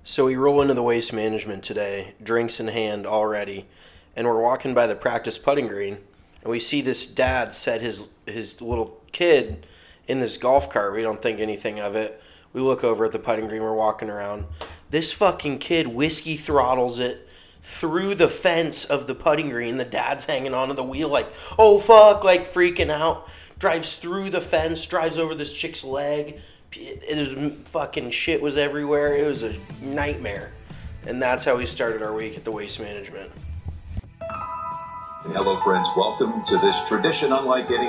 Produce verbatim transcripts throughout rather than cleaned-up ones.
So we roll into the Waste Management today, drinks in hand already, and we're walking by the practice putting green, and we see this dad set his his little kid in this golf cart. We don't think anything of it. We look over at the putting green, we're walking around. This fucking kid whiskey throttles it through the fence of the putting green. The dad's hanging onto the wheel like, oh fuck, like freaking out. Drives through the fence, drives over this chick's leg. It was fucking shit was everywhere. It was a nightmare. And that's how we started our week at the Waste Management. Hello friends, welcome to this tradition unlike any...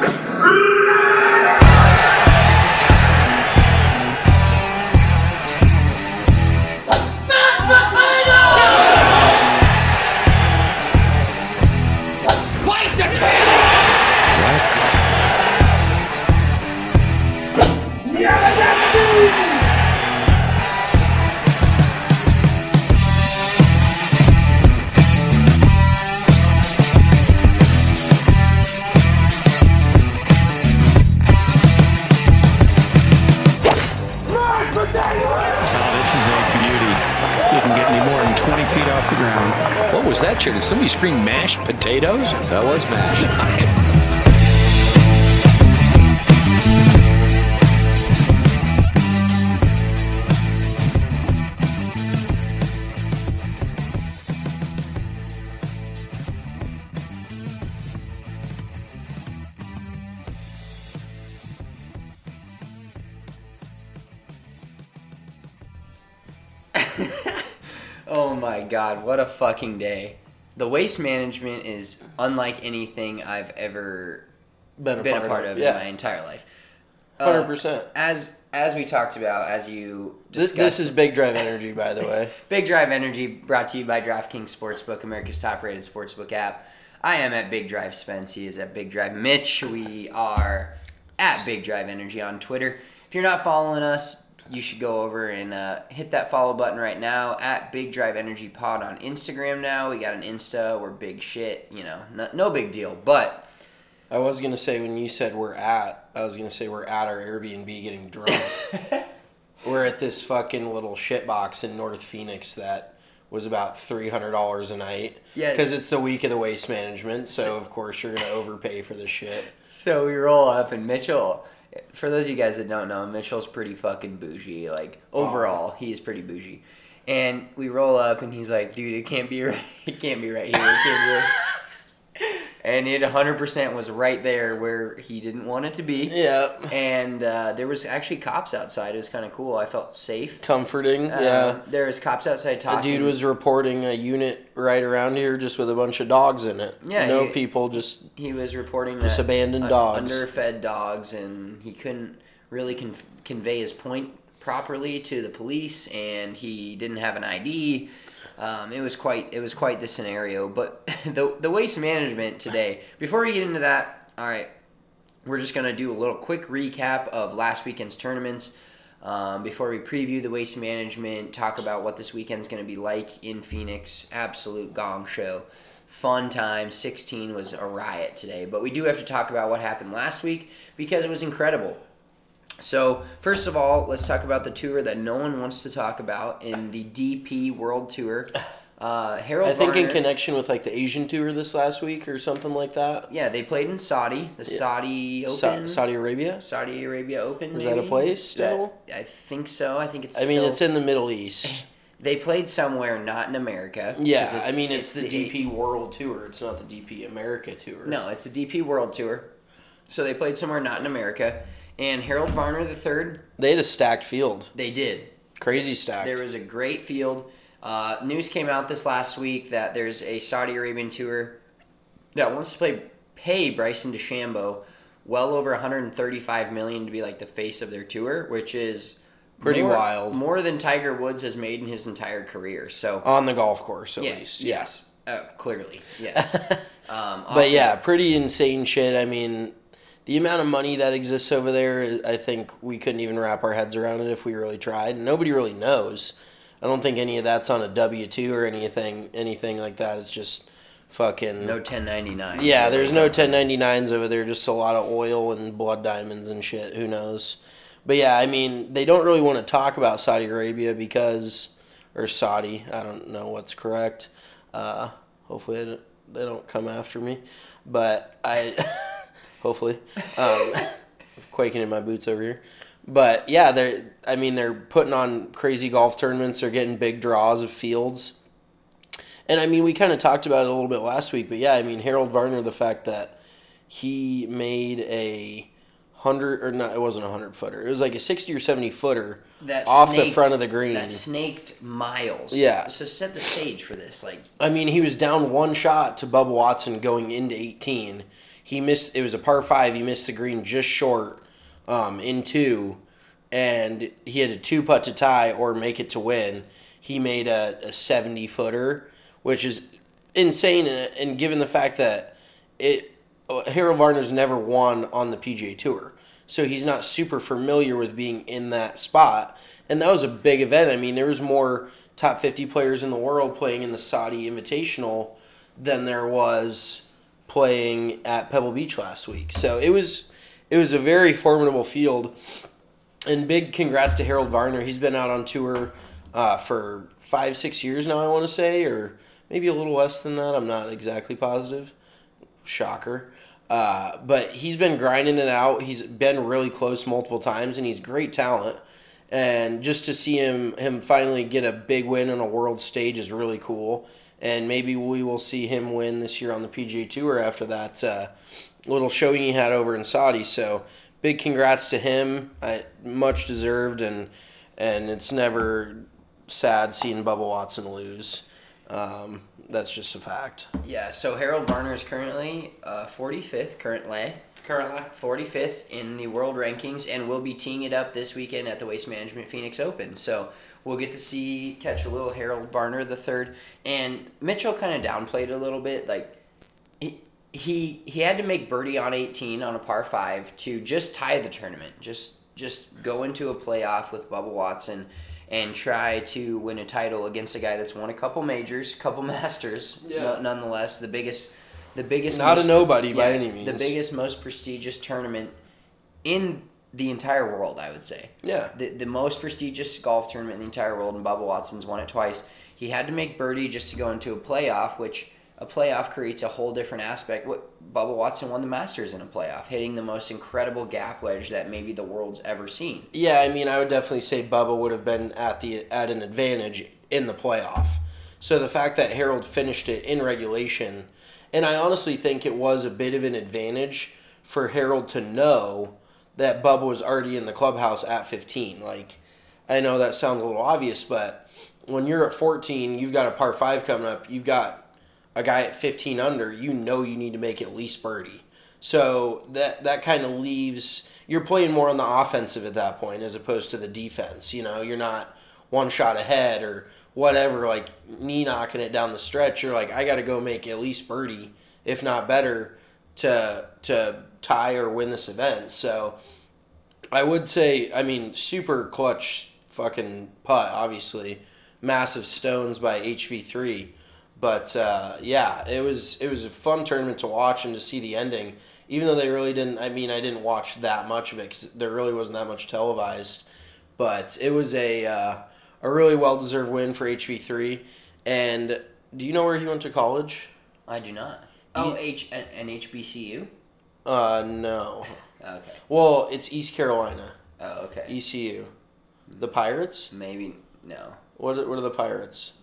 What was that, Chair? Did somebody scream mashed potatoes? That was mashed. Oh my god, what a fucking day. The Waste Management is unlike anything I've ever Been a been part a part of, of, yeah. in my entire life. Uh, one hundred percent. As as we talked about, as you This, discussed. this is Big Drive Energy, by the way. Big Drive Energy, brought to you by DraftKings Sportsbook, America's top-rated sportsbook app. I am at Big Drive Spence. He is at Big Drive Mitch. We are at Big Drive Energy on Twitter. If you're not following us, you should go over and uh, hit that follow button right now at Big Drive Energy Pod on Instagram now. We got an Insta. We're big shit. You know, no, no big deal. But I was going to say, when you said we're at, I was going to say we're at our Airbnb getting drunk. We're at this fucking little shitbox in North Phoenix that was about three hundred dollars a night. Yes. Because it's the week of the Waste Management, so of course you're going to overpay for this shit. So we roll up, and Mitchell, for those of you guys that don't know, Mitchell's pretty fucking bougie. Like, overall, oh. he's pretty bougie. And we roll up, and he's like, dude, it can't be right. It can't be right here. It can't be right. And it one hundred percent was right there where he didn't want it to be. Yeah. And uh, there was actually cops outside. It was kind of cool. I felt safe. Comforting, Uh, yeah. There was cops outside A talking. dude was reporting a unit right around here just with a bunch of dogs in it. Yeah, No he- people, just... He was reporting Just that abandoned un- dogs. underfed dogs, and he couldn't really con- convey his point properly to the police, and he didn't have an I D. Um, it was quite it was quite the scenario. But the the Waste Management today. Before we get into that, all right, we're just gonna do a little quick recap of last weekend's tournaments. Um, before we preview the Waste Management, talk about what this weekend's going to be like in Phoenix. Absolute gong show. Fun time. sixteen was a riot today. But we do have to talk about what happened last week because it was incredible. So, first of all, let's talk about the tour that no one wants to talk about in the D P World Tour. Uh, Harold I think in Varner- connection with like the Asian tour this last week or something like that. Yeah, they played in Saudi, the Yeah. Saudi Sa- Open. Saudi Arabia? Saudi Arabia Open, Is maybe? that a place still? That- I think so. I think it's I mean, still- it's in the Middle East. They played somewhere not in America. 'cause Yeah, it's- I mean, it's, the, the D P World Tour. It's not the D P America Tour. No, it's the D P World Tour. So they played somewhere not in America. And Harold Varner the third, They had a stacked field. they did. Crazy stacked. There was a great field. Uh, news came out this last week that there's a Saudi Arabian tour that wants to play pay Bryson DeChambeau well over one hundred thirty-five million dollars to be like the face of their tour, which is Pretty more, wild. More than Tiger Woods has made in his entire career. So On the golf course, at yeah, least. yes, uh, clearly, yes. um, But yeah, pretty insane shit. I mean, the amount of money that exists over there, is- I think we couldn't even wrap our heads around it if we really tried. Nobody really knows. I don't think any of that's on a W two or anything anything like that. It's just fucking... no ten ninety-nine. Yeah, there's no ten ninety-nines over there, just a lot of oil and blood diamonds and shit. Who knows? But yeah, I mean, they don't really want to talk about Saudi Arabia because or Saudi. I don't know what's correct. Uh, hopefully they don't, they don't come after me. But I, hopefully, um, quaking in my boots over here. But yeah, they're. I mean, they're putting on crazy golf tournaments. They're getting big draws of fields. And I mean, we kind of talked about it a little bit last week. But yeah, I mean, Harold Varner, the fact that he made a hundred or not, it wasn't a hundred footer. It was like a sixty or seventy footer that off snaked, the front of the green. That snaked miles. Yeah. So set the stage for this. Like, I mean, he was down one shot to Bubba Watson going into eighteen. He missed. It was a par five. He missed the green just short um, in two, and he had a two putt to tie or make it to win. He made a, a seventy footer, which is insane. And, and given the fact that it, Harold Varner's never won on the P G A Tour, so he's not super familiar with being in that spot. And that was a big event. I mean, there was more top fifty players in the world playing in the Saudi Invitational than there was playing at Pebble Beach last week. So it was it was a very formidable field. And big congrats to Harold Varner. He's been out on tour uh, for five, six years now, I want to say, or maybe a little less than that. I'm not exactly positive. Shocker. Uh, but he's been grinding it out. He's been really close multiple times, and he's great talent. And just to see him him finally get a big win on a world stage is really cool. And maybe we will see him win this year on the P G A Tour after that uh, little showing he had over in Saudi. So big congrats to him. I, much deserved, and and it's never sad seeing Bubba Watson lose. Um, that's just a fact. yeah, so Harold Varner is currently uh, forty-fifth, currently. Currently. forty-fifth in the world rankings, and we'll be teeing it up this weekend at the Waste Management Phoenix Open. So we'll get to see, catch a little Harold Varner the third. And Mitchell kind of downplayed a little bit. Like, he, he he had to make birdie on eighteen on a par five to just tie the tournament. Just just go into a playoff with Bubba Watson and try to win a title against a guy that's won a couple majors, couple Masters, Yeah. no, nonetheless. The biggest... The biggest, Not most, a nobody yeah, by any means. The biggest, most prestigious tournament in the entire world, I would say. Yeah. The the most prestigious golf tournament in the entire world, and Bubba Watson's won it twice. He had to make birdie just to go into a playoff, which a playoff creates a whole different aspect. What Bubba Watson won the Masters in a playoff, hitting the most incredible gap wedge that maybe the world's ever seen. Yeah, I mean, I would definitely say Bubba would have been at the at an advantage in the playoff. So the fact that Harold finished it in regulation, and I honestly think it was a bit of an advantage for Harold to know that Bubba was already in the clubhouse at fifteen. Like, I know that sounds a little obvious, but when you're at fourteen, you've got a par five coming up, you've got a guy at fifteen under, you know you need to make at least birdie. So that that kind of leaves, you're playing more on the offensive at that point as opposed to the defense. You know, you're not one shot ahead or whatever, like knee knocking it down the stretch. You're like, I got to go make at least birdie, if not better, to to tie or win this event. So I would say, I mean, super clutch fucking putt, obviously. Massive stones by H V three. But uh, yeah, it was it was a fun tournament to watch and to see the ending. Even though they really didn't, I mean, I didn't watch that much of it because there really wasn't that much televised. But it was a uh, a really well-deserved win for H V three. And do you know where he went to college? I do not. Oh, H an H B C U? Uh, no. Okay. Well, it's East Carolina. Oh, okay. E C U. The Pirates? Maybe, no. What are, what are the Pirates?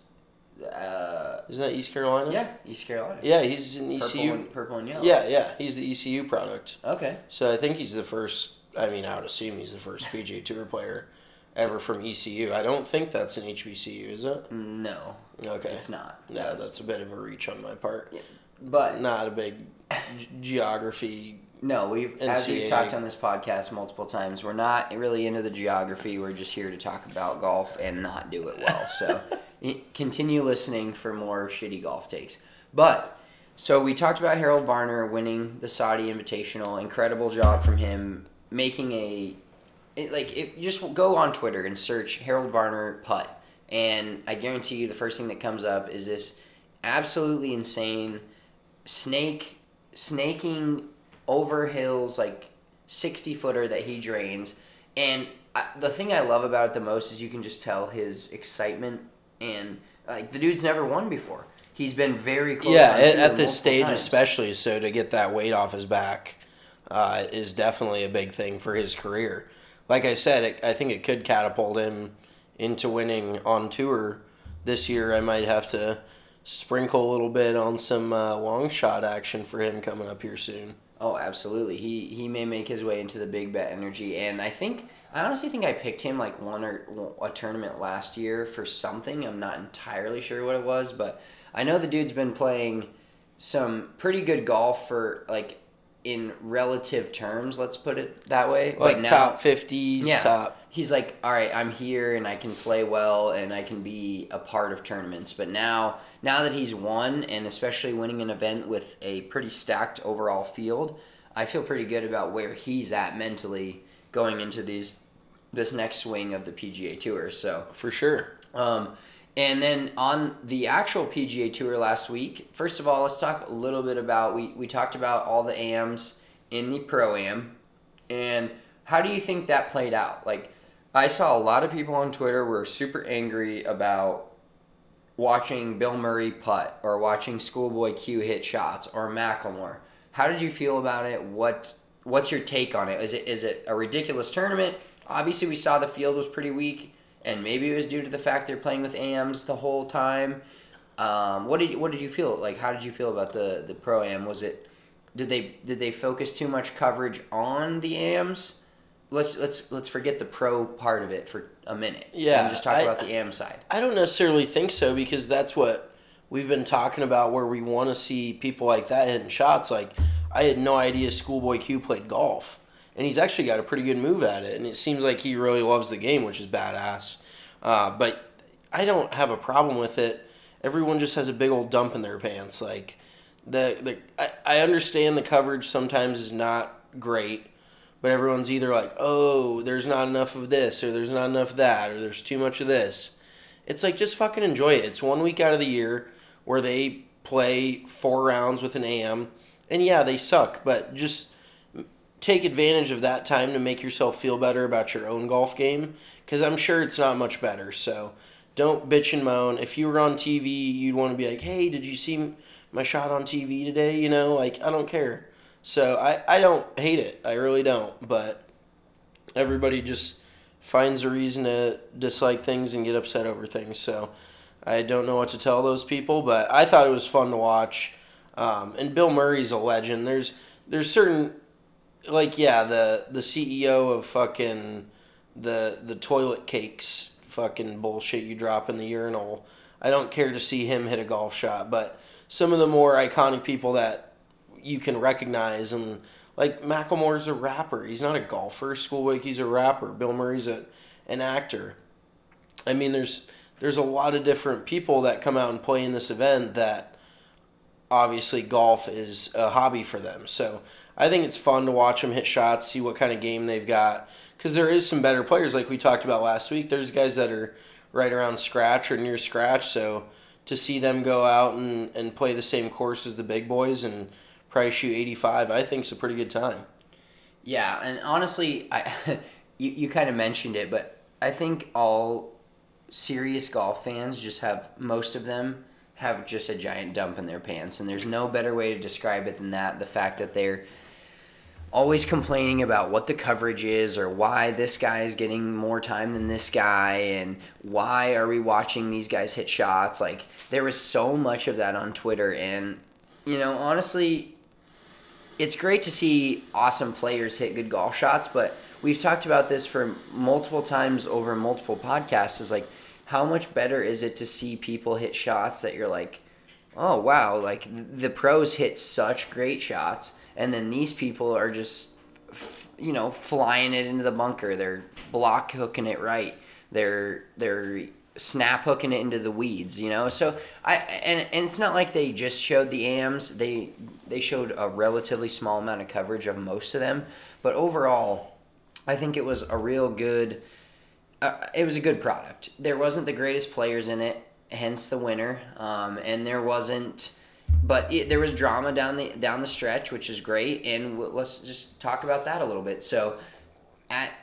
Uh, Isn't that East Carolina? yeah, East Carolina. Yeah, he's in E C U. Purple and, purple and yellow. Yeah, yeah, he's the E C U product. Okay. So I think he's the first, I mean, I would assume he's the first P G A Tour player ever from E C U. I don't think that's an H B C U, is it? No. Okay. It's not. No, That's- that's a bit of a reach on my part. Yeah, but Not a big g- geography. no, we've as N C A A. we've talked on this podcast multiple times, we're not really into the geography. We're just here to talk about golf and not do it well. So continue listening for more shitty golf takes. But so we talked about Harold Varner winning the Saudi Invitational. Incredible job from him making a it, like it, just go on Twitter and search Harold Varner putt, and I guarantee you the first thing that comes up is this absolutely insane snake snaking over hills, like sixty footer that he drains. And I, the thing I love about it the most is you can just tell his excitement and like the dude's never won before. He's been very close. Yeah, on at, tour at this multiple stage times. especially, so to get that weight off his back uh, is definitely a big thing for his career. Like I said, it, I think it could catapult him into winning on tour this year. I might have to sprinkle a little bit on some uh, long shot action for him coming up here soon. Oh, absolutely. He he may make his way into the big bet energy, and I think I honestly think I picked him like one or a tournament last year for something. I'm not entirely sure what it was, but I know the dude's been playing some pretty good golf for like in relative terms. Let's put it that way. Like but now, top fifties, yeah, top. He's like, all right, I'm here and I can play well and I can be a part of tournaments. But now, now that he's won and especially winning an event with a pretty stacked overall field, I feel pretty good about where he's at mentally going into these this next swing of the P G A Tour. So For sure. Um, and then on the actual P G A Tour last week, first of all, let's talk a little bit about, we, we talked about all the A Ms in the Pro-Am, and how do you think that played out? Like, I saw a lot of people on Twitter were super angry about watching Bill Murray putt or watching Schoolboy Q hit shots or Macklemore. How did you feel about it? What What's your take on it? Is it is it a ridiculous tournament? Obviously, we saw the field was pretty weak, and maybe it was due to the fact they're playing with A Ms the whole time. Um, what did you, what did you feel like? How did you feel about the, the Pro-Am? Was it did they did they focus too much coverage on the A Ms? Let's let's let's forget the pro part of it for a minute. Yeah, and just talk I- about the A M side. I don't necessarily think so, because that's what we've been talking about, where we want to see people like that hitting shots. Like, I had no idea Schoolboy Q played golf, and he's actually got a pretty good move at it, and it seems like he really loves the game, which is badass. Uh, but I don't have a problem with it. Everyone just has a big old dump in their pants. Like, the, the I, I understand the coverage sometimes is not great, but everyone's either like, oh, there's not enough of this, or there's not enough of that, or there's too much of this. It's like, just fucking enjoy it. It's one week out of the year where they play four rounds with an A M, and yeah, they suck, but just take advantage of that time to make yourself feel better about your own golf game, because I'm sure it's not much better. So don't bitch and moan. If you were on T V, you'd want to be like, hey, did you see my shot on T V today? You know, like, I don't care. So I, I don't hate it. I really don't. But everybody just finds a reason to dislike things and get upset over things. So I don't know what to tell those people, but I thought it was fun to watch. Um, and Bill Murray's a legend. There's there's certain, like, yeah, the, the C E O of fucking the the toilet cakes fucking bullshit you drop in the urinal. I don't care to see him hit a golf shot, but some of the more iconic people that you can recognize, and like Macklemore's a rapper. He's not a golfer. Schoolboy Q's a rapper. Bill Murray's a an actor. I mean, there's there's a lot of different people that come out and play in this event that obviously golf is a hobby for them. So I think it's fun to watch them hit shots, see what kind of game they've got, because there is some better players like we talked about last week. There's guys that are right around scratch or near scratch, so to see them go out and, and play the same course as the big boys and probably shoot eighty-five, I think it's a pretty good time. Yeah, and honestly, I you, you kind of mentioned it, but I think all serious golf fans just have, most of them have just a giant dump in their pants, and there's no better way to describe it than that. The fact that they're always complaining about what the coverage is, or why this guy is getting more time than this guy, and why are we watching these guys hit shots. Like, there was so much of that on Twitter, and, you know, honestly, it's great to see awesome players hit good golf shots, but we've talked about this for multiple times over multiple podcasts, is like, how much better is it to see people hit shots that you're like, oh, wow, like, the pros hit such great shots, and then these people are just, you know, flying it into the bunker. They're block hooking it right. They're they're snap hooking it into the weeds, you know. So I and and it's not like they just showed the A Ms. They they showed a relatively small amount of coverage of most of them, but overall, I think it was a real good. Uh, it was a good product. There wasn't the greatest players in it, hence the winner, um, and there wasn't. But it, there was drama down the down the stretch, which is great, and w- let's just talk about that a little bit. So, at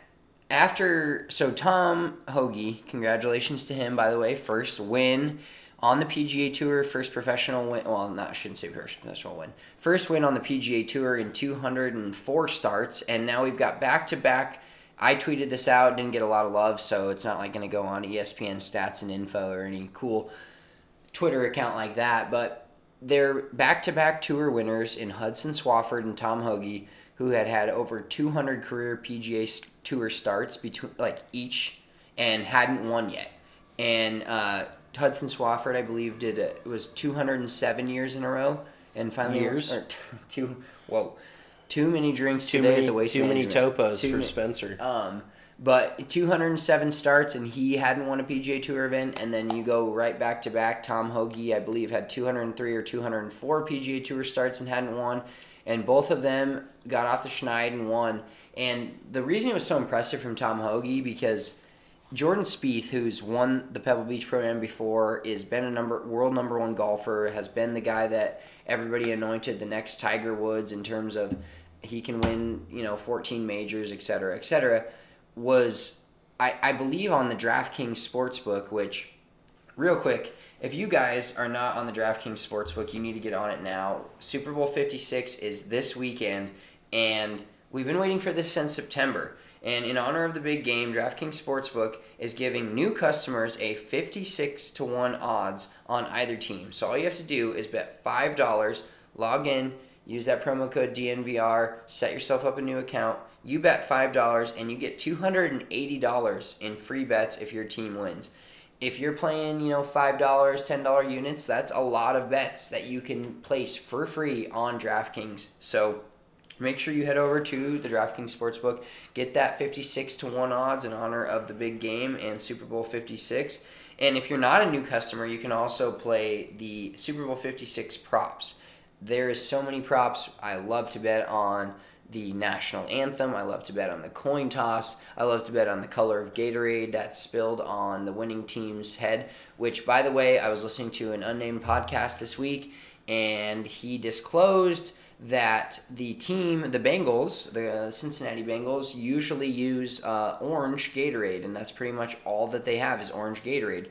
after, so Tom Hoge, congratulations to him, by the way, first win on the P G A Tour, first professional win, well, not, I shouldn't say first professional win, first win on the P G A Tour in two hundred four starts, and now we've got back-to-back. I tweeted this out, didn't get a lot of love, so it's not like going to go on E S P N stats and info or any cool Twitter account like that, but they're back-to-back tour winners in Hudson Swafford and Tom Hoge, who had had over two hundred career P G A Tour starts between like each and hadn't won yet. And uh, Hudson Swafford, I believe, did a, it was two hundred seven years in a row, and finally Years? Or two. Whoa, too many drinks Too today many, at the waste too many management. topos Too for ma- Spencer. Um, but two hundred seven starts, and he hadn't won a P G A Tour event. And then you go right back to back. Tom Hoge, I believe, had two hundred three or two hundred four P G A Tour starts and hadn't won. And both of them got off the schneid and won. And the reason it was so impressive from Tom Hoge, because Jordan Spieth, who's won the Pebble Beach Pro-Am before, is been a number world number one golfer, has been the guy that everybody anointed the next Tiger Woods in terms of he can win, you know, fourteen majors, et cetera, et cetera, was, I, I believe, on the DraftKings Sportsbook, which, real quick, if you guys are not on the DraftKings Sportsbook, you need to get on it now. Super Bowl fifty-six is this weekend, and we've been waiting for this since September. And in honor of the big game, DraftKings Sportsbook is giving new customers a fifty-six to one odds on either team. So all you have to do is bet five dollars, log in, use that promo code D N V R, set yourself up a new account. You bet five dollars, and you get two hundred eighty dollars in free bets if your team wins. If you're playing, you know, five dollars, ten dollars units, that's a lot of bets that you can place for free on DraftKings. So make sure you head over to the DraftKings Sportsbook, get that fifty-six to one odds in honor of the big game and Super Bowl fifty-six. And if you're not a new customer, you can also play the Super Bowl fifty-six props. There is so many props. I love to bet on the national anthem. I love to bet on the coin toss. I love to bet on the color of Gatorade that's spilled on the winning team's head, which, by the way, I was listening to an unnamed podcast this week, and he disclosed that the team, the Bengals, the Cincinnati Bengals, usually use uh, orange Gatorade, and that's pretty much all that they have is orange Gatorade.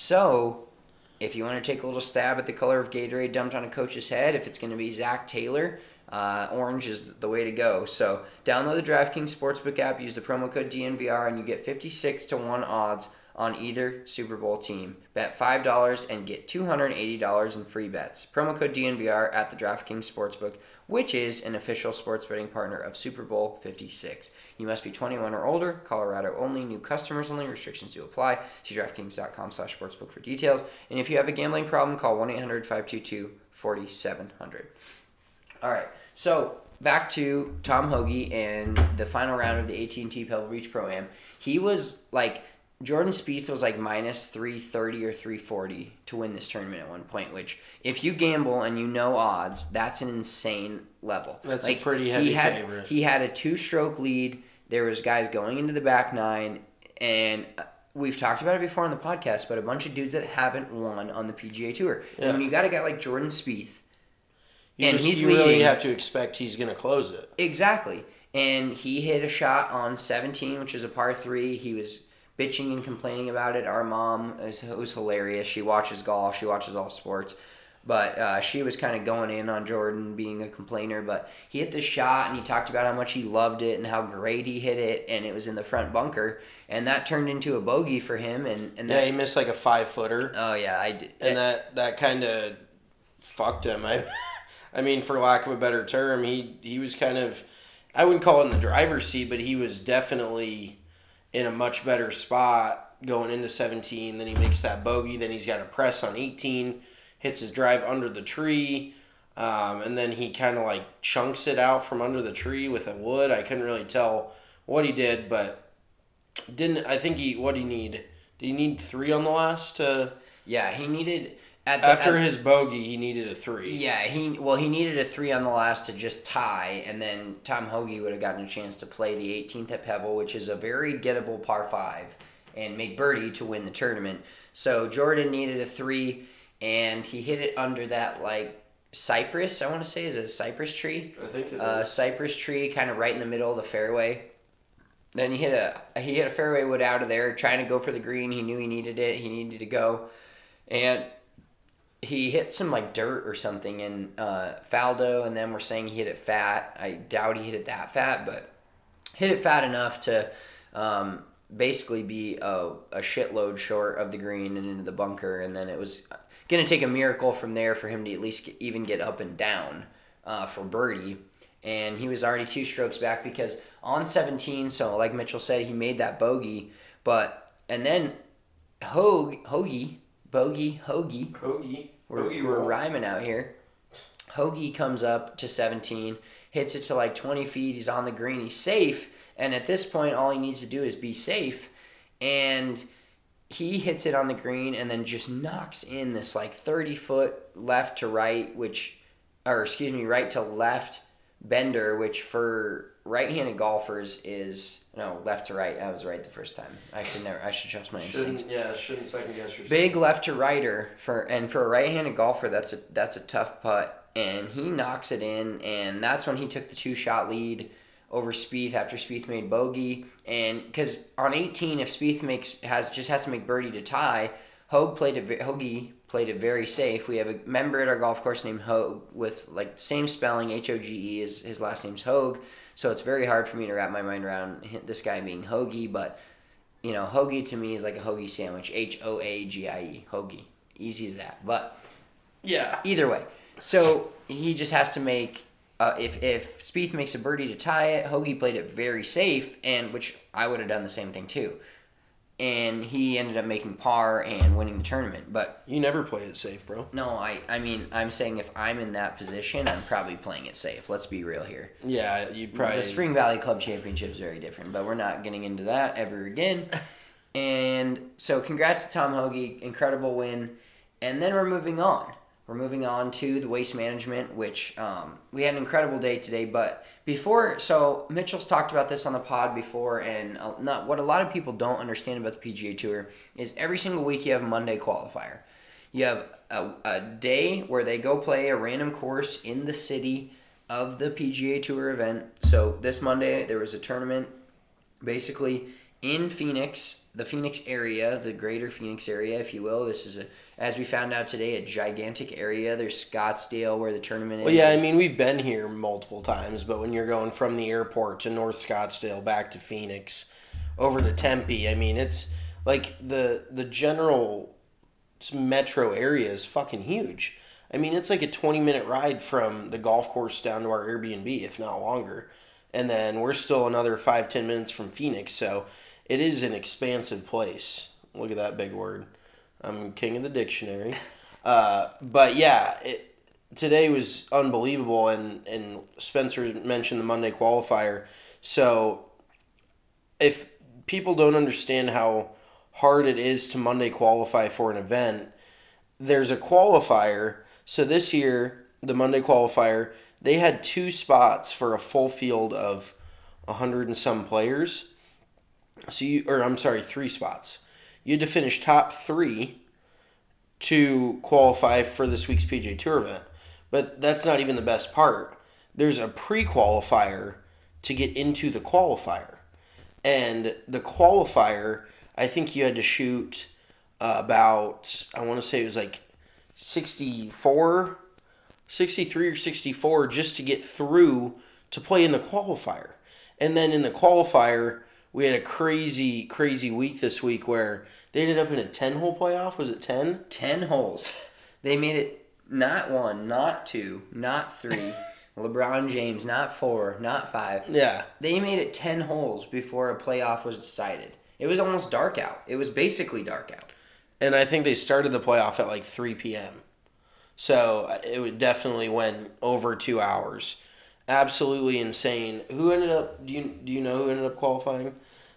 So if you want to take a little stab at the color of Gatorade dumped on a coach's head, if it's going to be Zach Taylor, uh, orange is the way to go. So download the DraftKings Sportsbook app, use the promo code D N V R, and you get fifty-six to one odds on either Super Bowl team. Bet five dollars and get two hundred eighty dollars in free bets. Promo code D N V R at the DraftKings Sportsbook, which is an official sports betting partner of Super Bowl fifty-six. You must be twenty-one or older, Colorado only, new customers only, restrictions do apply. See DraftKings.com slash sportsbook for details. And if you have a gambling problem, call one eight hundred five two two four seven zero zero. All right, so back to Tom Hoge and the final round of the A T and T Pebble Beach Pro-Am. He was like, Jordan Spieth was like minus three thirty or three forty to win this tournament at one point, which if you gamble and you know odds, that's an insane level. That's like, a pretty heavy he had, favorite. He had a two-stroke lead. There was guys going into the back nine, and we've talked about it before on the podcast, but a bunch of dudes that haven't won on the P G A Tour. Yeah. And when you got a guy like Jordan Spieth, you and just, he's you leading, really have to expect he's going to close it. Exactly. And he hit a shot on seventeen, which is a par three. He was bitching and complaining about it. Our mom is, was hilarious. She watches golf. She watches all sports. But uh, she was kind of going in on Jordan being a complainer. But he hit the shot, and he talked about how much he loved it and how great he hit it, and it was in the front bunker. And that turned into a bogey for him. And, and that, Yeah, he missed like a five-footer. Oh, yeah, I did. And that, that kind of fucked him. I I mean, for lack of a better term, he, he was kind of, I wouldn't call it in the driver's seat, but he was definitely in a much better spot going into seventeen. Then he makes that bogey. Then he's got a press on eighteen, hits his drive under the tree, um, and then he kind of like chunks it out from under the tree with a wood. I couldn't really tell what he did, but didn't I think he what he need? Did he need three on the last to? Yeah, he needed at the, After at, his bogey, he needed a three. Yeah, he well he needed a three on the last to just tie, and then Tom Hoge would have gotten a chance to play the eighteenth at Pebble, which is a very gettable par five, and make birdie to win the tournament. So Jordan needed a three, and he hit it under that like cypress. I want to say is it a cypress tree? I think it uh, is. Cypress tree, kind of right in the middle of the fairway. then he hit a he hit a fairway wood out of there, trying to go for the green. He knew he needed it. He needed to go, and he hit some like dirt or something in uh, Faldo, and then we're saying he hit it fat. I doubt he hit it that fat, but hit it fat enough to um, basically be a, a shitload short of the green and into the bunker, and then it was going to take a miracle from there for him to at least get, even get up and down uh, for birdie. And he was already two strokes back because on seventeen, so like Mitchell said, he made that bogey, but and then Hogue, Hoagie, Bogey, Hoagie, Hoagie, we're, Hoagie we're roll. rhyming out here. Hoagie comes up to seventeen, hits it to like twenty feet. He's on the green. He's safe, and at this point, all he needs to do is be safe, and he hits it on the green and then just knocks in this like thirty foot left to right, which, or excuse me, right to left bender, which for right-handed golfers is no left to right. I was right the first time. I should never. I should trust my instincts. Shouldn't, yeah, shouldn't second guess yourself. Big left to righter for and for a right-handed golfer, that's a that's a tough putt, and he knocks it in, and that's when he took the two-shot lead over Spieth after Spieth made bogey, and because on eighteen, if Spieth makes has just has to make birdie to tie, Hogue played it. Hoagie played it very safe. We have a member at our golf course named Hogue with like the same spelling, H O G E. Is his last name's Hogue, so it's very hard for me to wrap my mind around this guy being Hoagie. But you know, Hoagie to me is like a hoagie sandwich. H O A G I E, Hoagie, easy as that. But Yeah. either way, so he just has to make. Uh, if if Spieth makes a birdie to tie it, Hoagie played it very safe, and which I would have done the same thing too. And he ended up making par and winning the tournament. But You never play it safe, bro. no, I, I mean, I'm saying if I'm in that position, I'm probably playing it safe. Let's be real here. Yeah, you'd probably... The Spring Valley Club Championship is very different, but we're not getting into that ever again. And so congrats to Tom Hoagie, incredible win. And then we're moving on. We're moving on to the Waste Management, which um, we had an incredible day today. But before, so Mitchell's talked about this on the pod before, and uh, not what a lot of people don't understand about the P G A Tour is every single week you have a Monday qualifier. You have a, a day where they go play a random course in the city of the P G A Tour event. So this Monday there was a tournament basically in Phoenix, the Phoenix area, the greater Phoenix area, if you will. This is, a, as we found out today, a gigantic area. There's Scottsdale where the tournament is. Well, yeah, I mean, we've been here multiple times, but when you're going from the airport to North Scottsdale back to Phoenix, over to Tempe, I mean, it's like the the general metro area is fucking huge. I mean, it's like a twenty-minute ride from the golf course down to our Airbnb, if not longer. And then we're still another five, ten minutes from Phoenix, so it is an expansive place. Look at that big word. I'm king of the dictionary. Uh, but yeah, it, today was unbelievable, and, and Spencer mentioned the Monday qualifier. So if people don't understand how hard it is to Monday qualify for an event, there's a qualifier. So this year, the Monday qualifier, they had two spots for a full field of a hundred and some players. So you, or I'm sorry, three spots. You had to finish top three to qualify for this week's P G A Tour event. But that's not even the best part. There's a pre-qualifier to get into the qualifier. And the qualifier, I think you had to shoot uh, about, I want to say it was like sixty-four, sixty-three or sixty-four just to get through to play in the qualifier. And then in the qualifier, we had a crazy, crazy week this week where they ended up in a ten-hole playoff. Was it ten? ten holes. They made it not one, not two, not three. LeBron James, not four, not five. Yeah. They made it ten holes before a playoff was decided. It was almost dark out. It was basically dark out. And I think they started the playoff at like three p.m. So it would definitely went over two hours. Absolutely insane. Who ended up, do you do you know who ended up qualifying?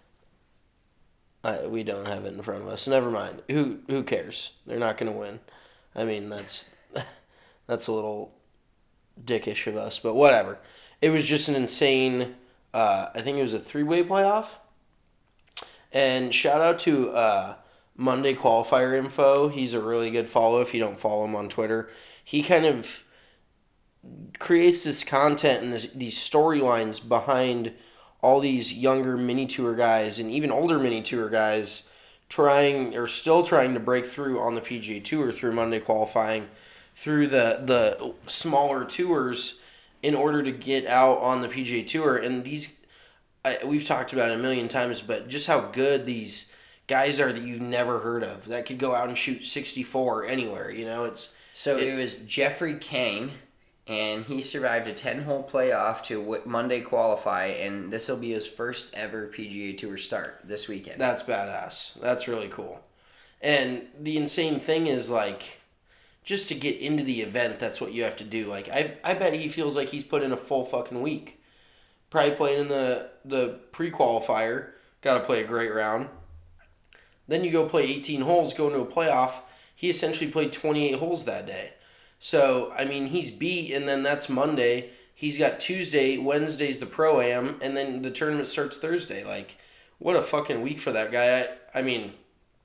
Uh, we don't have it in front of us. Never mind. Who who cares? They're not going to win. I mean, that's that's a little dickish of us, but whatever. It was just an insane, uh, I think it was a three-way playoff. And shout out to uh, Monday Qualifier Info. He's a really good follow if you don't follow him on Twitter. He kind of creates this content and this, these storylines behind all these younger mini tour guys and even older mini tour guys trying or still trying to break through on the P G A Tour through Monday qualifying, through the the smaller tours in order to get out on the P G A Tour. And these, I, we've talked about it a million times, but just how good these guys are that you've never heard of that could go out and shoot sixty-four anywhere. You know, it's so it, it was Jeffrey Kang, and he survived a ten-hole playoff to w- Monday qualify, and this will be his first ever P G A Tour start this weekend. That's badass. That's really cool. And the insane thing is, like, just to get into the event, that's what you have to do. Like, I I bet he feels like he's put in a full fucking week. Probably playing in the, the pre-qualifier. Got to play a great round. Then you go play eighteen holes, go into a playoff. He essentially played twenty-eight holes that day. So, I mean, he's beat, and then that's Monday. He's got Tuesday, Wednesday's the Pro-Am, and then the tournament starts Thursday. Like, what a fucking week for that guy. I, I mean,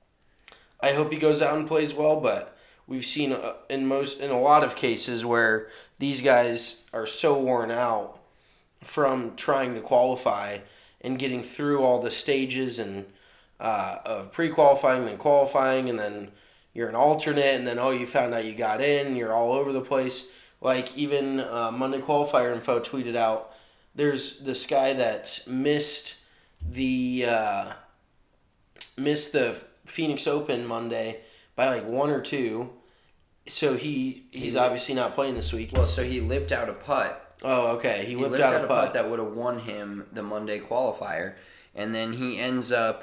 I hope he goes out and plays well, but we've seen uh, in most in a lot of cases where these guys are so worn out from trying to qualify and getting through all the stages and uh, of pre-qualifying, then qualifying, and then you're an alternate, and then, oh, you found out you got in, you're all over the place. Like, even uh, Monday Qualifier Info tweeted out, there's this guy that missed the uh, missed the Phoenix Open Monday by, like, one or two, so he he's he, obviously not playing this week. Well, so he lipped out a putt. Oh, okay, he, he lipped, lipped out, out a a putt. putt that would have won him the Monday Qualifier, and then he ends up...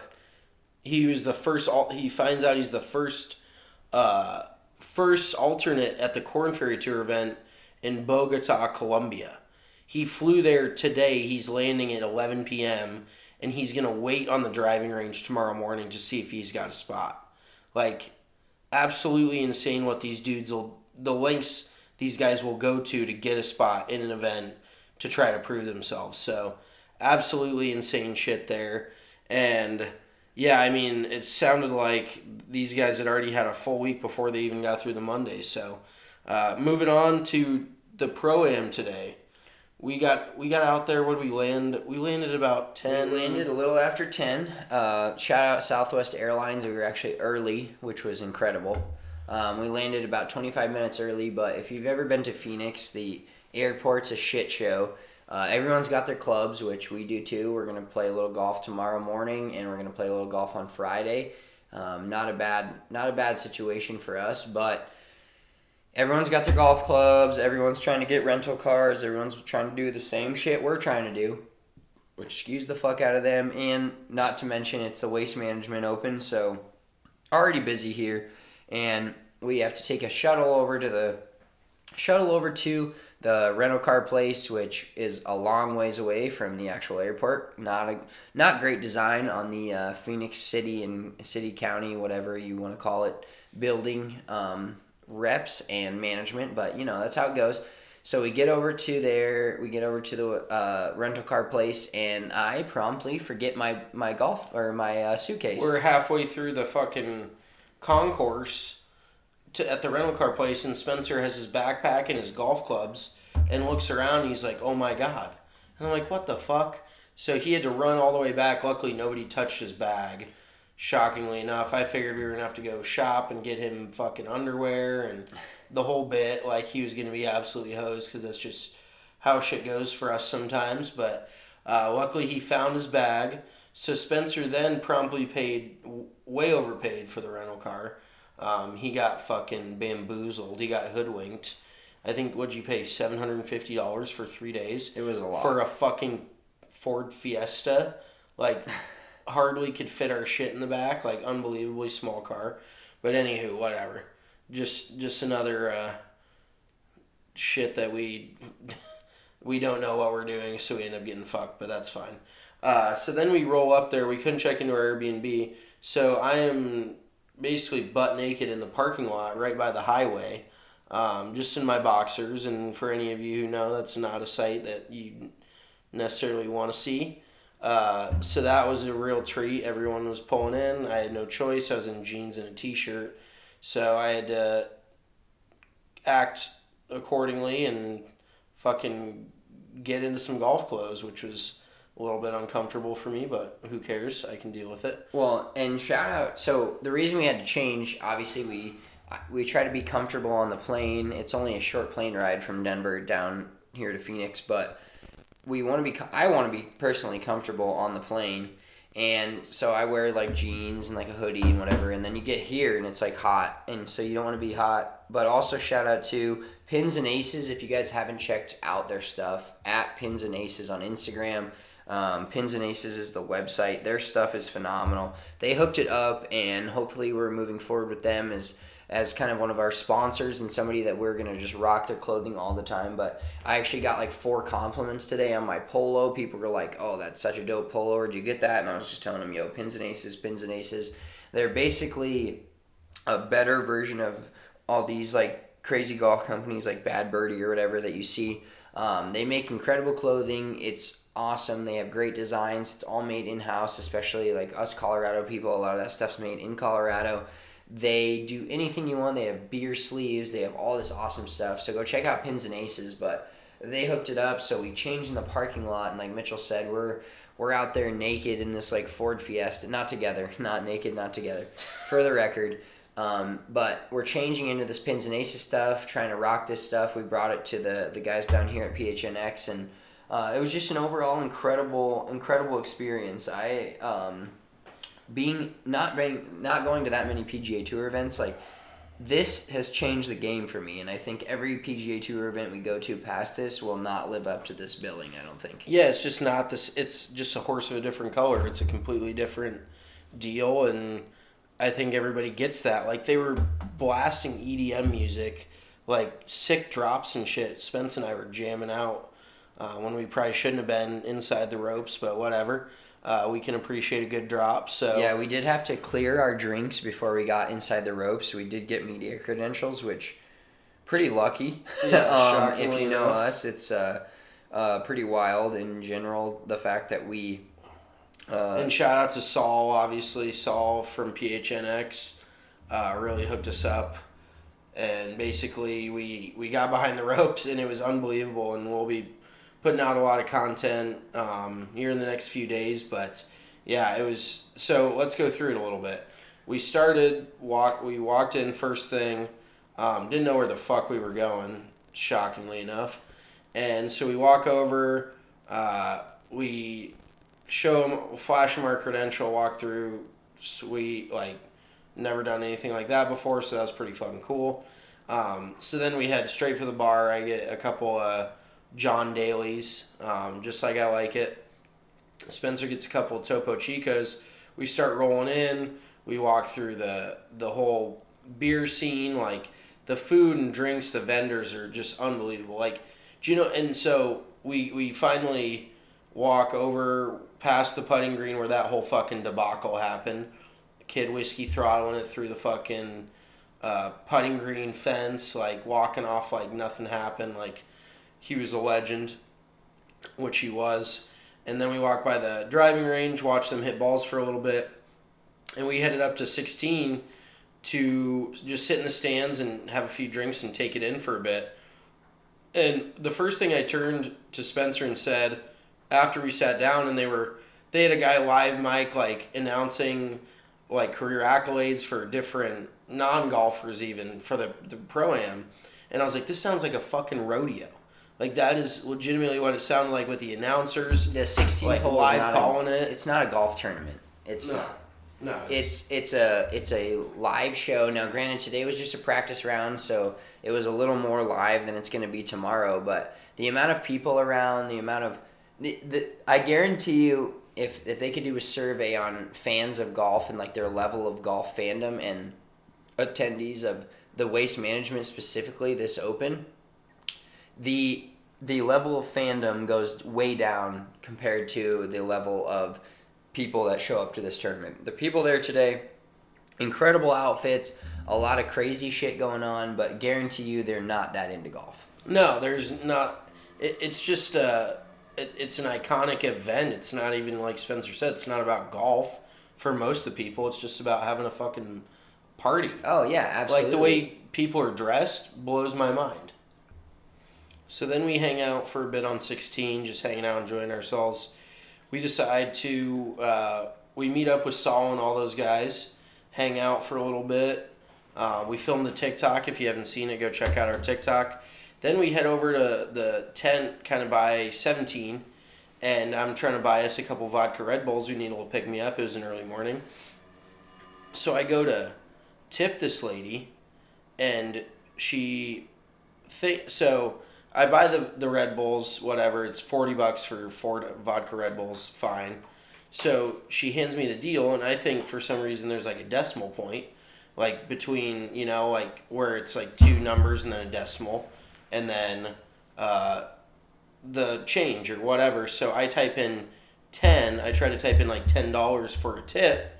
He was the first, he finds out he's the first... Uh, first alternate at the Korn Ferry Tour event in Bogota, Colombia. He flew there today. He's landing at eleven p.m. and he's going to wait on the driving range tomorrow morning to see if he's got a spot. Like, absolutely insane what these dudes will, the lengths these guys will go to to get a spot in an event to try to prove themselves. So, absolutely insane shit there. And... yeah, I mean, it sounded like these guys had already had a full week before they even got through the Monday. So, uh, moving on to the Pro-Am today. We got we got out there, what did we land? We landed about ten. We landed a little after ten. Uh, shout out Southwest Airlines. We were actually early, which was incredible. Um, we landed about twenty-five minutes early, but if you've ever been to Phoenix, the airport's a shit show. Uh, everyone's got their clubs, which we do too. We're going to play a little golf tomorrow morning, and we're going to play a little golf on Friday. Um, not a bad, not a bad situation for us, but everyone's got their golf clubs. Everyone's trying to get rental cars. Everyone's trying to do the same shit we're trying to do, which skews the fuck out of them. And not to mention, it's the Waste Management Open, so already busy here, and we have to take a shuttle over to the shuttle over to. The rental car place, which is a long ways away from the actual airport. Not a not great design on the uh, Phoenix City and City County, whatever you want to call it, building um, reps and management. But you know that's how it goes. So we get over to there. We get over to the uh, rental car place, and I promptly forget my my golf or my uh, suitcase. We're halfway through the fucking concourse. To, at the rental car place, and Spencer has his backpack and his golf clubs and looks around and he's like, oh my god. And I'm like, what the fuck? So he had to run all the way back. Luckily nobody touched his bag, shockingly enough. I figured we were going to have to go shop and get him fucking underwear and the whole bit. Like, he was going to be absolutely hosed because that's just how shit goes for us sometimes. But uh, luckily he found his bag. So Spencer then promptly paid, way overpaid for the rental car. Um, he got fucking bamboozled. He got hoodwinked. I think, what'd you pay, seven hundred fifty dollars for three days? It was a lot. For a fucking Ford Fiesta. Like, hardly could fit our shit in the back. Like, unbelievably small car. But anywho, whatever. Just just another uh, shit that we we don't know what we're doing, so we end up getting fucked, but that's fine. Uh, so then we roll up there. We couldn't check into our Airbnb. So I am... basically butt naked in the parking lot right by the highway, um, just in my boxers. And for any of you who know, that's not a sight that you necessarily want to see. Uh, so that was a real treat. Everyone was pulling in. I had no choice. I was in jeans and a t-shirt. So I had to act accordingly and fucking get into some golf clothes, which was a little bit uncomfortable for me, but who cares? I can deal with it. Well, and shout out. So the reason we had to change, obviously, we we try to be comfortable on the plane. It's only a short plane ride from Denver down here to Phoenix, but we want to be. I want to be personally comfortable on the plane, and so I wear like jeans and like a hoodie and whatever. And then you get here and it's like hot, and so you don't want to be hot. But also shout out to Pins and Aces. If you guys haven't checked out their stuff, at Pins and Aces on Instagram. Um, Pins and Aces is the website. Their stuff is phenomenal. They hooked it up, and hopefully we're moving forward with them as as kind of one of our sponsors and somebody that we're going to just rock their clothing all the time. But I actually got like four compliments today on my polo. People were like, oh, that's such a dope polo. Where'd you get that? And I was just telling them, yo, Pins and Aces, Pins and Aces. They're basically a better version of all these like crazy golf companies like Bad Birdie or whatever that you see. Um, they make incredible clothing. It's awesome. They have great designs. It's all made in-house, especially like us Colorado people. A lot of that stuff's made in Colorado. They do anything you want. They have beer sleeves. They have all this awesome stuff. So go check out Pins and Aces. But they hooked it up, so we changed in the parking lot. And like Mitchell said, we're we're out there naked in this like Ford Fiesta. Not together. Not naked, not together. For the record. Um, but we're changing into this Pins and Aces stuff, trying to rock this stuff. We brought it to the, the guys down here at P H N X, and uh, it was just an overall incredible, incredible experience. I um, being not being not going to that many P G A Tour events, like this has changed the game for me, and I think every P G A Tour event we go to past this will not live up to this billing. I don't think. Yeah, it's just not this. It's just a horse of a different color. It's a completely different deal, and I think everybody gets that. Like, they were blasting E D M music, like sick drops and shit. Spence and I were jamming out uh, when we probably shouldn't have been inside the ropes, but whatever. Uh, we can appreciate a good drop. So yeah, we did have to clear our drinks before we got inside the ropes. We did get media credentials, which pretty lucky. Yeah, um, if you know enough. us, it's uh, uh, pretty wild in general. The fact that we. Uh, and shout out to Saul, obviously. Saul from P H N X uh, really hooked us up. And basically, we, we got behind the ropes, and it was unbelievable. And we'll be putting out a lot of content um, here in the next few days. But, yeah, it was... So, let's go through it a little bit. We started... walk. We walked in first thing. Um, didn't know where the fuck we were going, shockingly enough. And so we walk over. Uh, we... show them, flash them our credential, walk through, sweet, like, never done anything like that before, so that was pretty fucking cool. Um, so then we head straight for the bar. I get a couple of John Daly's, um, just like I like it. Spencer gets a couple of Topo Chicos. We start rolling in. We walk through the the whole beer scene, like, the food and drinks, the vendors are just unbelievable. Like, do you know, and so we, we finally walk over past the putting green where that whole fucking debacle happened. Kid whiskey throttling it through the fucking uh, putting green fence, like walking off like nothing happened, like he was a legend, which he was. And then we walked by the driving range, watched them hit balls for a little bit, and we headed up to sixteen to just sit in the stands and have a few drinks and take it in for a bit. And the first thing I turned to Spencer and said, after we sat down, and they were, they had a guy live mic, like, announcing, like, career accolades for different non-golfers even, for the, the Pro-Am. And I was like, this sounds like a fucking rodeo. Like, that is legitimately what it sounded like with the announcers. The sixteen like, hole is live not calling a, it. It's not a golf tournament. It's No. No. It's it's a it's a live show. Now, granted, today was just a practice round, so it was a little more live than it's going to be tomorrow. But the amount of people around, the amount of the, the I guarantee you, if if they could do a survey on fans of golf and like their level of golf fandom and attendees of the Waste Management specifically, this Open, the the level of fandom goes way down compared to the level of people that show up to this tournament. The people there today, incredible outfits, a lot of crazy shit going on, but guarantee you they're not that into golf. No, there's not. It, it's just uh, it, it's an iconic event. It's not even, like Spencer said, it's not about golf for most of the people. It's just about having a fucking party. Oh, yeah, absolutely. Like, the way people are dressed blows my mind. So then we hang out for a bit on sixteen, just hanging out, enjoying ourselves. we decide to uh, we meet up with Saul and all those guys, hang out for a little bit. Uh, we filmed the TikTok. If you haven't seen it, go check out our TikTok. Then we head over to the tent, kind of by seventeen, and I'm trying to buy us a couple vodka Red Bulls. We need a little pick me up. It was an early morning, so I go to tip this lady, and she think so. I buy the the Red Bulls, whatever. It's forty bucks for four vodka Red Bulls. Fine. So she hands me the deal, and I think for some reason there's like a decimal point, like between, you know, like where it's like two numbers and then a decimal, and then uh, the change or whatever. So I type in ten. I try to type in like ten dollars for a tip,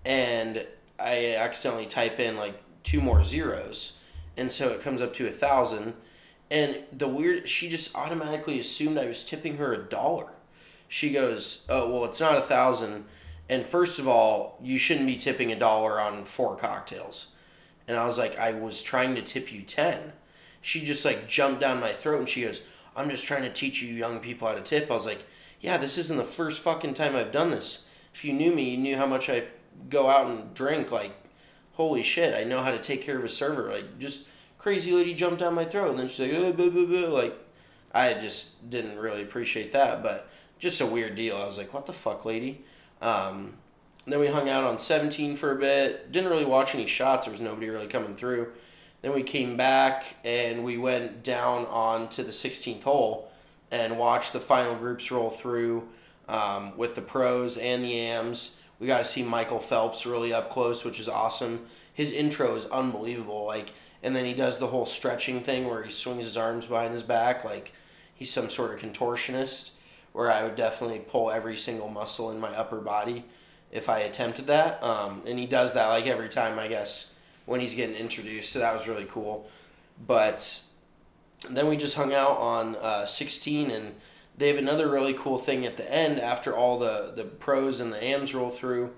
and I accidentally type in like two more zeros, and so it comes up to a thousand. And the weird, she just automatically assumed I was tipping her a dollar. She goes, "Oh, well, it's not a thousand. And first of all, you shouldn't be tipping a dollar on four cocktails." And I was like, "I was trying to tip you ten." She just like jumped down my throat and she goes, "I'm just trying to teach you young people how to tip." I was like, "Yeah, this isn't the first fucking time I've done this. If you knew me, you knew how much I go out and drink. Like, holy shit, I know how to take care of a server. Like, just crazy lady jumped down my throat." And then she's like, oh, blah, blah, blah. Like, I just didn't really appreciate that, but just a weird deal. I was like, what the fuck, lady? Um, then we hung out on seventeen for a bit. Didn't really watch any shots. There was nobody really coming through. Then we came back and we went down on to the sixteenth hole and watched the final groups roll through um, with the pros and the A Ms. We got to see Michael Phelps really up close, which is awesome. His intro is unbelievable. Like, and then he does the whole stretching thing where he swings his arms behind his back like he's some sort of contortionist, where I would definitely pull every single muscle in my upper body if I attempted that. Um, and he does that like every time, I guess, when he's getting introduced. So that was really cool. But then we just hung out on uh, sixteen, and they have another really cool thing at the end after all the, the pros and the A Ms roll through.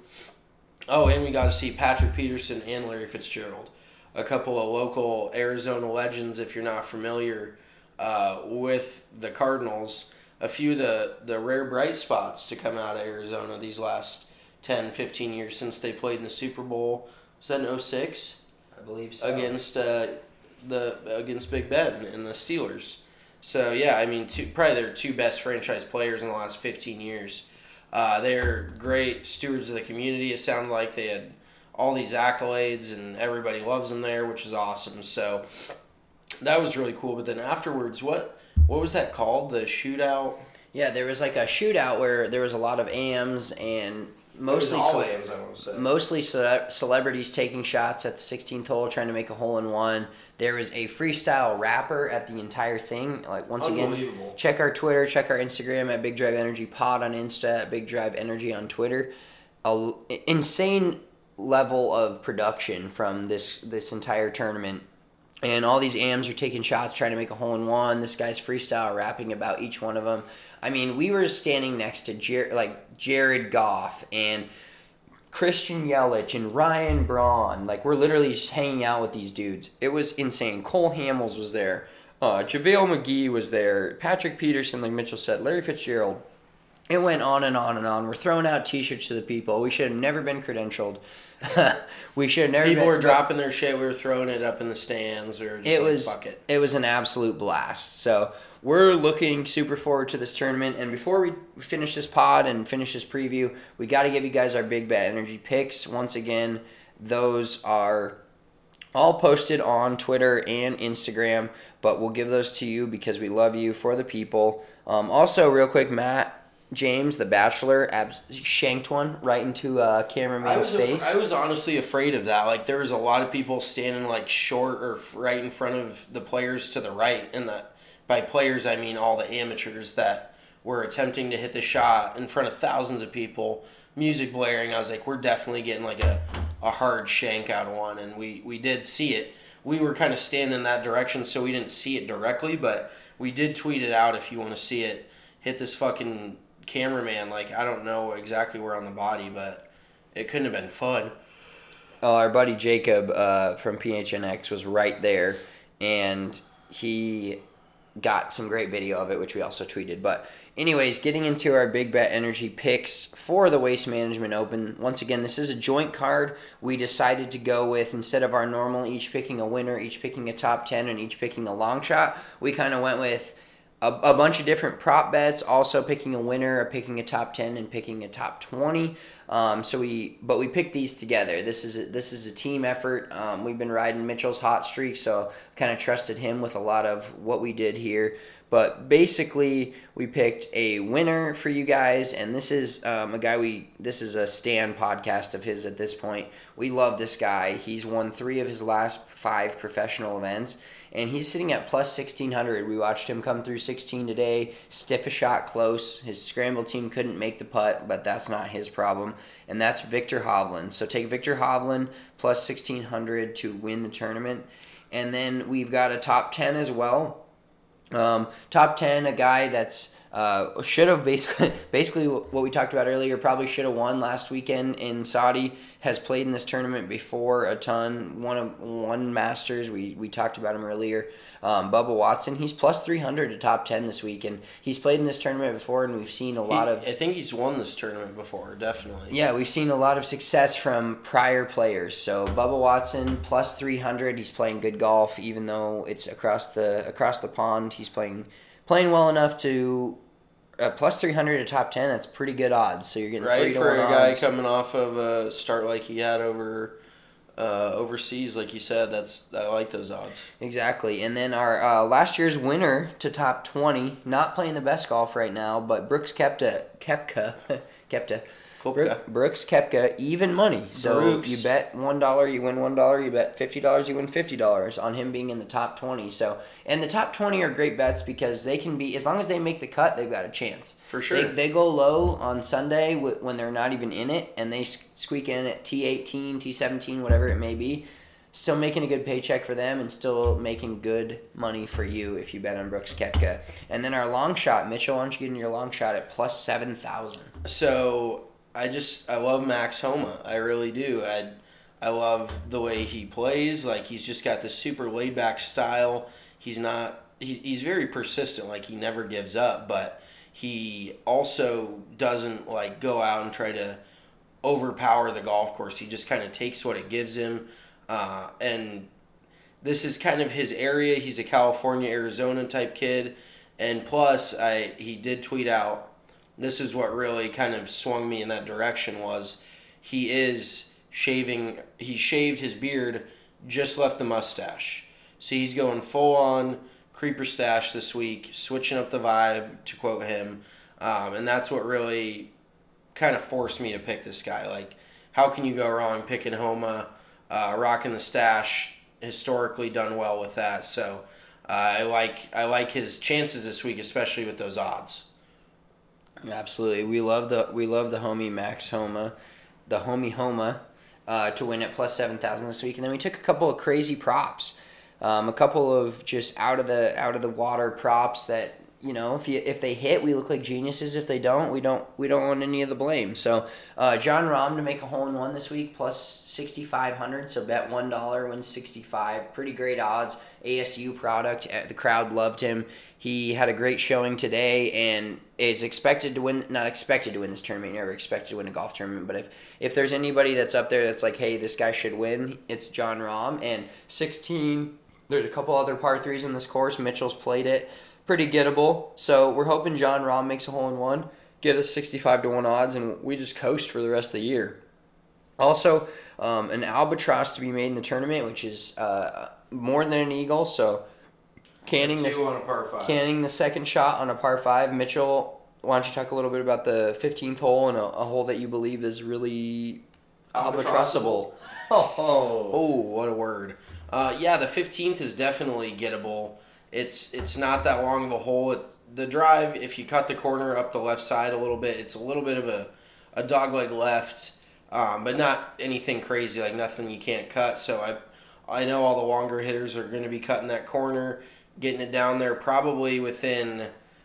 Oh, and we got to see Patrick Peterson and Larry Fitzgerald, a couple of local Arizona legends, if you're not familiar uh, with the Cardinals. A few of the, the rare bright spots to come out of Arizona these last ten, fifteen years since they played in the Super Bowl. Was that in oh six? I believe so. Against, uh, the, against Big Ben and the Steelers. So, yeah, I mean, two, probably their two best franchise players in the last fifteen years. Uh, they're great stewards of the community. It sounded like they had all these accolades, and everybody loves them there, which is awesome. So that was really cool. But then afterwards, what what was that called? The shootout? Yeah, there was like a shootout where there was a lot of A Ms and mostly all ce- A Ms, I want to say. mostly ce- celebrities taking shots at the sixteenth hole, trying to make a hole in one. There was a freestyle rapper at the entire thing. Like, once again, check our Twitter, check our Instagram at Big Drive Energy Pod on Insta, at Big Drive Energy on Twitter. A insane level of production from this this entire tournament. And all these A Ms are taking shots, trying to make a hole in one. This guy's freestyle rapping about each one of them. I mean, we were standing next to Jer- like Jared Goff and Christian Yelich and Ryan Braun. Like, we're literally just hanging out with these dudes. It was insane. Cole Hamels was there. Uh, JaVale McGee was there. Patrick Peterson, like Mitchell said. Larry Fitzgerald. It went on and on and on. We're throwing out T-shirts to the people. We should have never been credentialed. we should have never People been, were dropping their shit. We were throwing it up in the stands. Or just it like, was, fuck it. It was an absolute blast. So we're looking super forward to this tournament. And before we finish this pod and finish this preview, we got to give you guys our Big Bad Energy picks. Once again, those are all posted on Twitter and Instagram. But we'll give those to you because we love you, for the people. Um, also, real quick, Matt James, the Bachelor, abs- shanked one right into uh, cameraman's I was face. Af- I was honestly afraid of that. Like, there was a lot of people standing like short or f- right in front of the players to the right, and that by players I mean all the amateurs that were attempting to hit the shot in front of thousands of people, music blaring. I was like, we're definitely getting like a, a hard shank out of one, and we, we did see it. We were kind of standing in that direction, so we didn't see it directly, but we did tweet it out if you want to see it. Hit this fucking cameraman, like, I don't know exactly where on the body, but it couldn't have been fun. Oh, our buddy Jacob uh, from P H N X was right there, and he got some great video of it, which we also tweeted. But anyways, getting into our Big Bet Energy picks for the Waste Management Open. Once again, this is a joint card. We decided to go with, instead of our normal each picking a winner, each picking a top ten, and each picking a long shot, we kind of went with a, a bunch of different prop bets, also picking a winner, picking a top ten, and picking a top twenty. Um, so we, but we picked these together. This is a, this is a team effort. Um, we've been riding Mitchell's hot streak, so kind of trusted him with a lot of what we did here. But basically, we picked a winner for you guys, and this is um, a guy we. This is a Stan podcast of his at this point. We love this guy. He's won three of his last five professional events, and he's sitting at plus sixteen hundred. We watched him come through sixteen today, stiff a shot close. His scramble team couldn't make the putt, but that's not his problem, and that's Viktor Hovland. So take Viktor Hovland plus sixteen hundred to win the tournament, and then we've got a top ten as well. Um, top ten, a guy that's uh, should have basically basically what we talked about earlier, probably should have won last weekend in Saudi, has played in this tournament before a ton, won, a, won Masters, we, we talked about him earlier. Um, Bubba Watson, he's plus three hundred to top ten this week, and he's played in this tournament before, and we've seen a lot he, of... I think he's won this tournament before, definitely. Yeah, we've seen a lot of success from prior players. So Bubba Watson, plus three hundred, he's playing good golf, even though it's across the across the pond. He's playing playing well enough to... Uh, plus three hundred to top ten, that's pretty good odds. So you're getting right three to for one a guy odds. coming off of a start like he had over uh, overseas, like you said. That's I like those odds. Exactly. And then our uh, last year's winner to top twenty, not playing the best golf right now, but Brooks Koepka, Koepka, Koepka, Koepka. Brooks Koepka, even money. So Brooks. you bet one dollar, you win one dollar. You bet fifty dollars, you win fifty dollars on him being in the top twenty. So, and the top twenty are great bets because they can be, as long as they make the cut, they've got a chance. For sure. They, they go low on Sunday when they're not even in it, and they squeak in at T eighteen, T seventeen, whatever it may be. Still making a good paycheck for them and still making good money for you if you bet on Brooks Koepka. And then our long shot, Mitchell, why don't you get in your long shot at plus seven thousand? So I just I love Max Homa. I really do. I I love the way he plays. Like he's just got this super laid back style. He's not he, he's very persistent. Like he never gives up, but he also doesn't like go out and try to overpower the golf course. He just kind of takes what it gives him. Uh, and this is kind of his area. He's a California, Arizona type kid. And plus, I he did tweet out, this is what really kind of swung me in that direction, was he is shaving, he shaved his beard, just left the mustache. So he's going full on creeper stash this week, switching up the vibe, to quote him. Um, and that's what really kind of forced me to pick this guy. Like, how can you go wrong picking Homa, uh, rocking the stash, historically done well with that. So uh, I like I like his chances this week, especially with those odds. Absolutely, we love the we love the homie Max Homa, the homie Homa, uh, to win at plus seven thousand this week, and then we took a couple of crazy props, um, a couple of just out of the out of the water props that, you know, if you if they hit, we look like geniuses. If they don't, we don't we don't want any of the blame. So uh, John Rahm to make a hole in one this week, plus sixty five hundred. So bet one dollar, wins sixty five. Pretty great odds. A S U product. The crowd loved him. He had a great showing today and is expected to win, not expected to win this tournament, never expected to win a golf tournament, but if, if there's anybody that's up there that's like, hey, this guy should win, it's John Rahm. And sixteen, there's a couple other par threes in this course. Mitchell's played it. Pretty gettable. So we're hoping John Rahm makes a hole in one, get us sixty-five to one odds, and we just coast for the rest of the year. Also, um, an albatross to be made in the tournament, which is uh, more than an eagle, so Canning Two the, on a par five. Canning the second shot on a par five. Mitchell, why don't you talk a little bit about the fifteenth hole and a, a hole that you believe is really albatrossable? Oh, oh. Oh, what a word. Uh, yeah, the fifteenth is definitely gettable. It's it's not that long of a hole. It's the drive, if you cut the corner up the left side a little bit, it's a little bit of a, a dogleg left, um, but not anything crazy, like nothing you can't cut. So I I know all the longer hitters are going to be cutting that corner, getting it down there probably within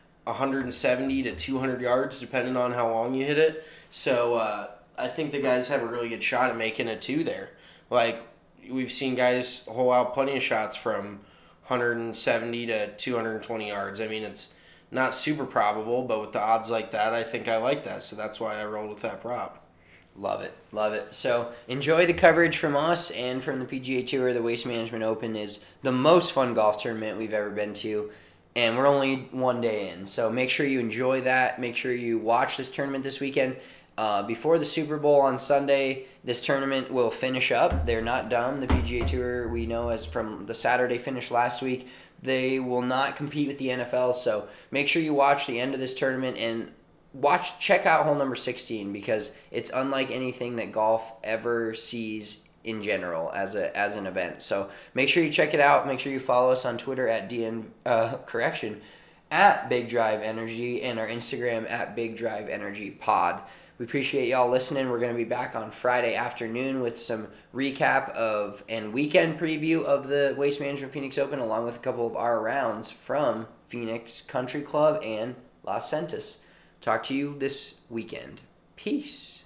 one seventy to two hundred yards, depending on how long you hit it. So uh, I think the guys have a really good shot at making a two there. Like, we've seen guys hole out plenty of shots from one seventy to two hundred twenty yards. I mean, it's not super probable, but with the odds like that, I think I like that. So that's why I rolled with that prop. Love it. Love it. So enjoy the coverage from us and from the P G A Tour. The Waste Management Open is the most fun golf tournament we've ever been to. And we're only one day in. So make sure you enjoy that. Make sure you watch this tournament this weekend. Uh, before the Super Bowl on Sunday, this tournament will finish up. They're not done. The P G A Tour, we know as from the Saturday finish last week, they will not compete with the N F L. So make sure you watch the end of this tournament and watch, check out hole number sixteen because it's unlike anything that golf ever sees in general as a as an event. So make sure you check it out. Make sure you follow us on Twitter at D N uh, correction at Big Drive Energy and our Instagram at Big Drive Energy Pod. We appreciate y'all listening. We're going to be back on Friday afternoon with some recap of and weekend preview of the Waste Management Phoenix Open along with a couple of our rounds from Phoenix Country Club and Las Centas. Talk to you this weekend. Peace.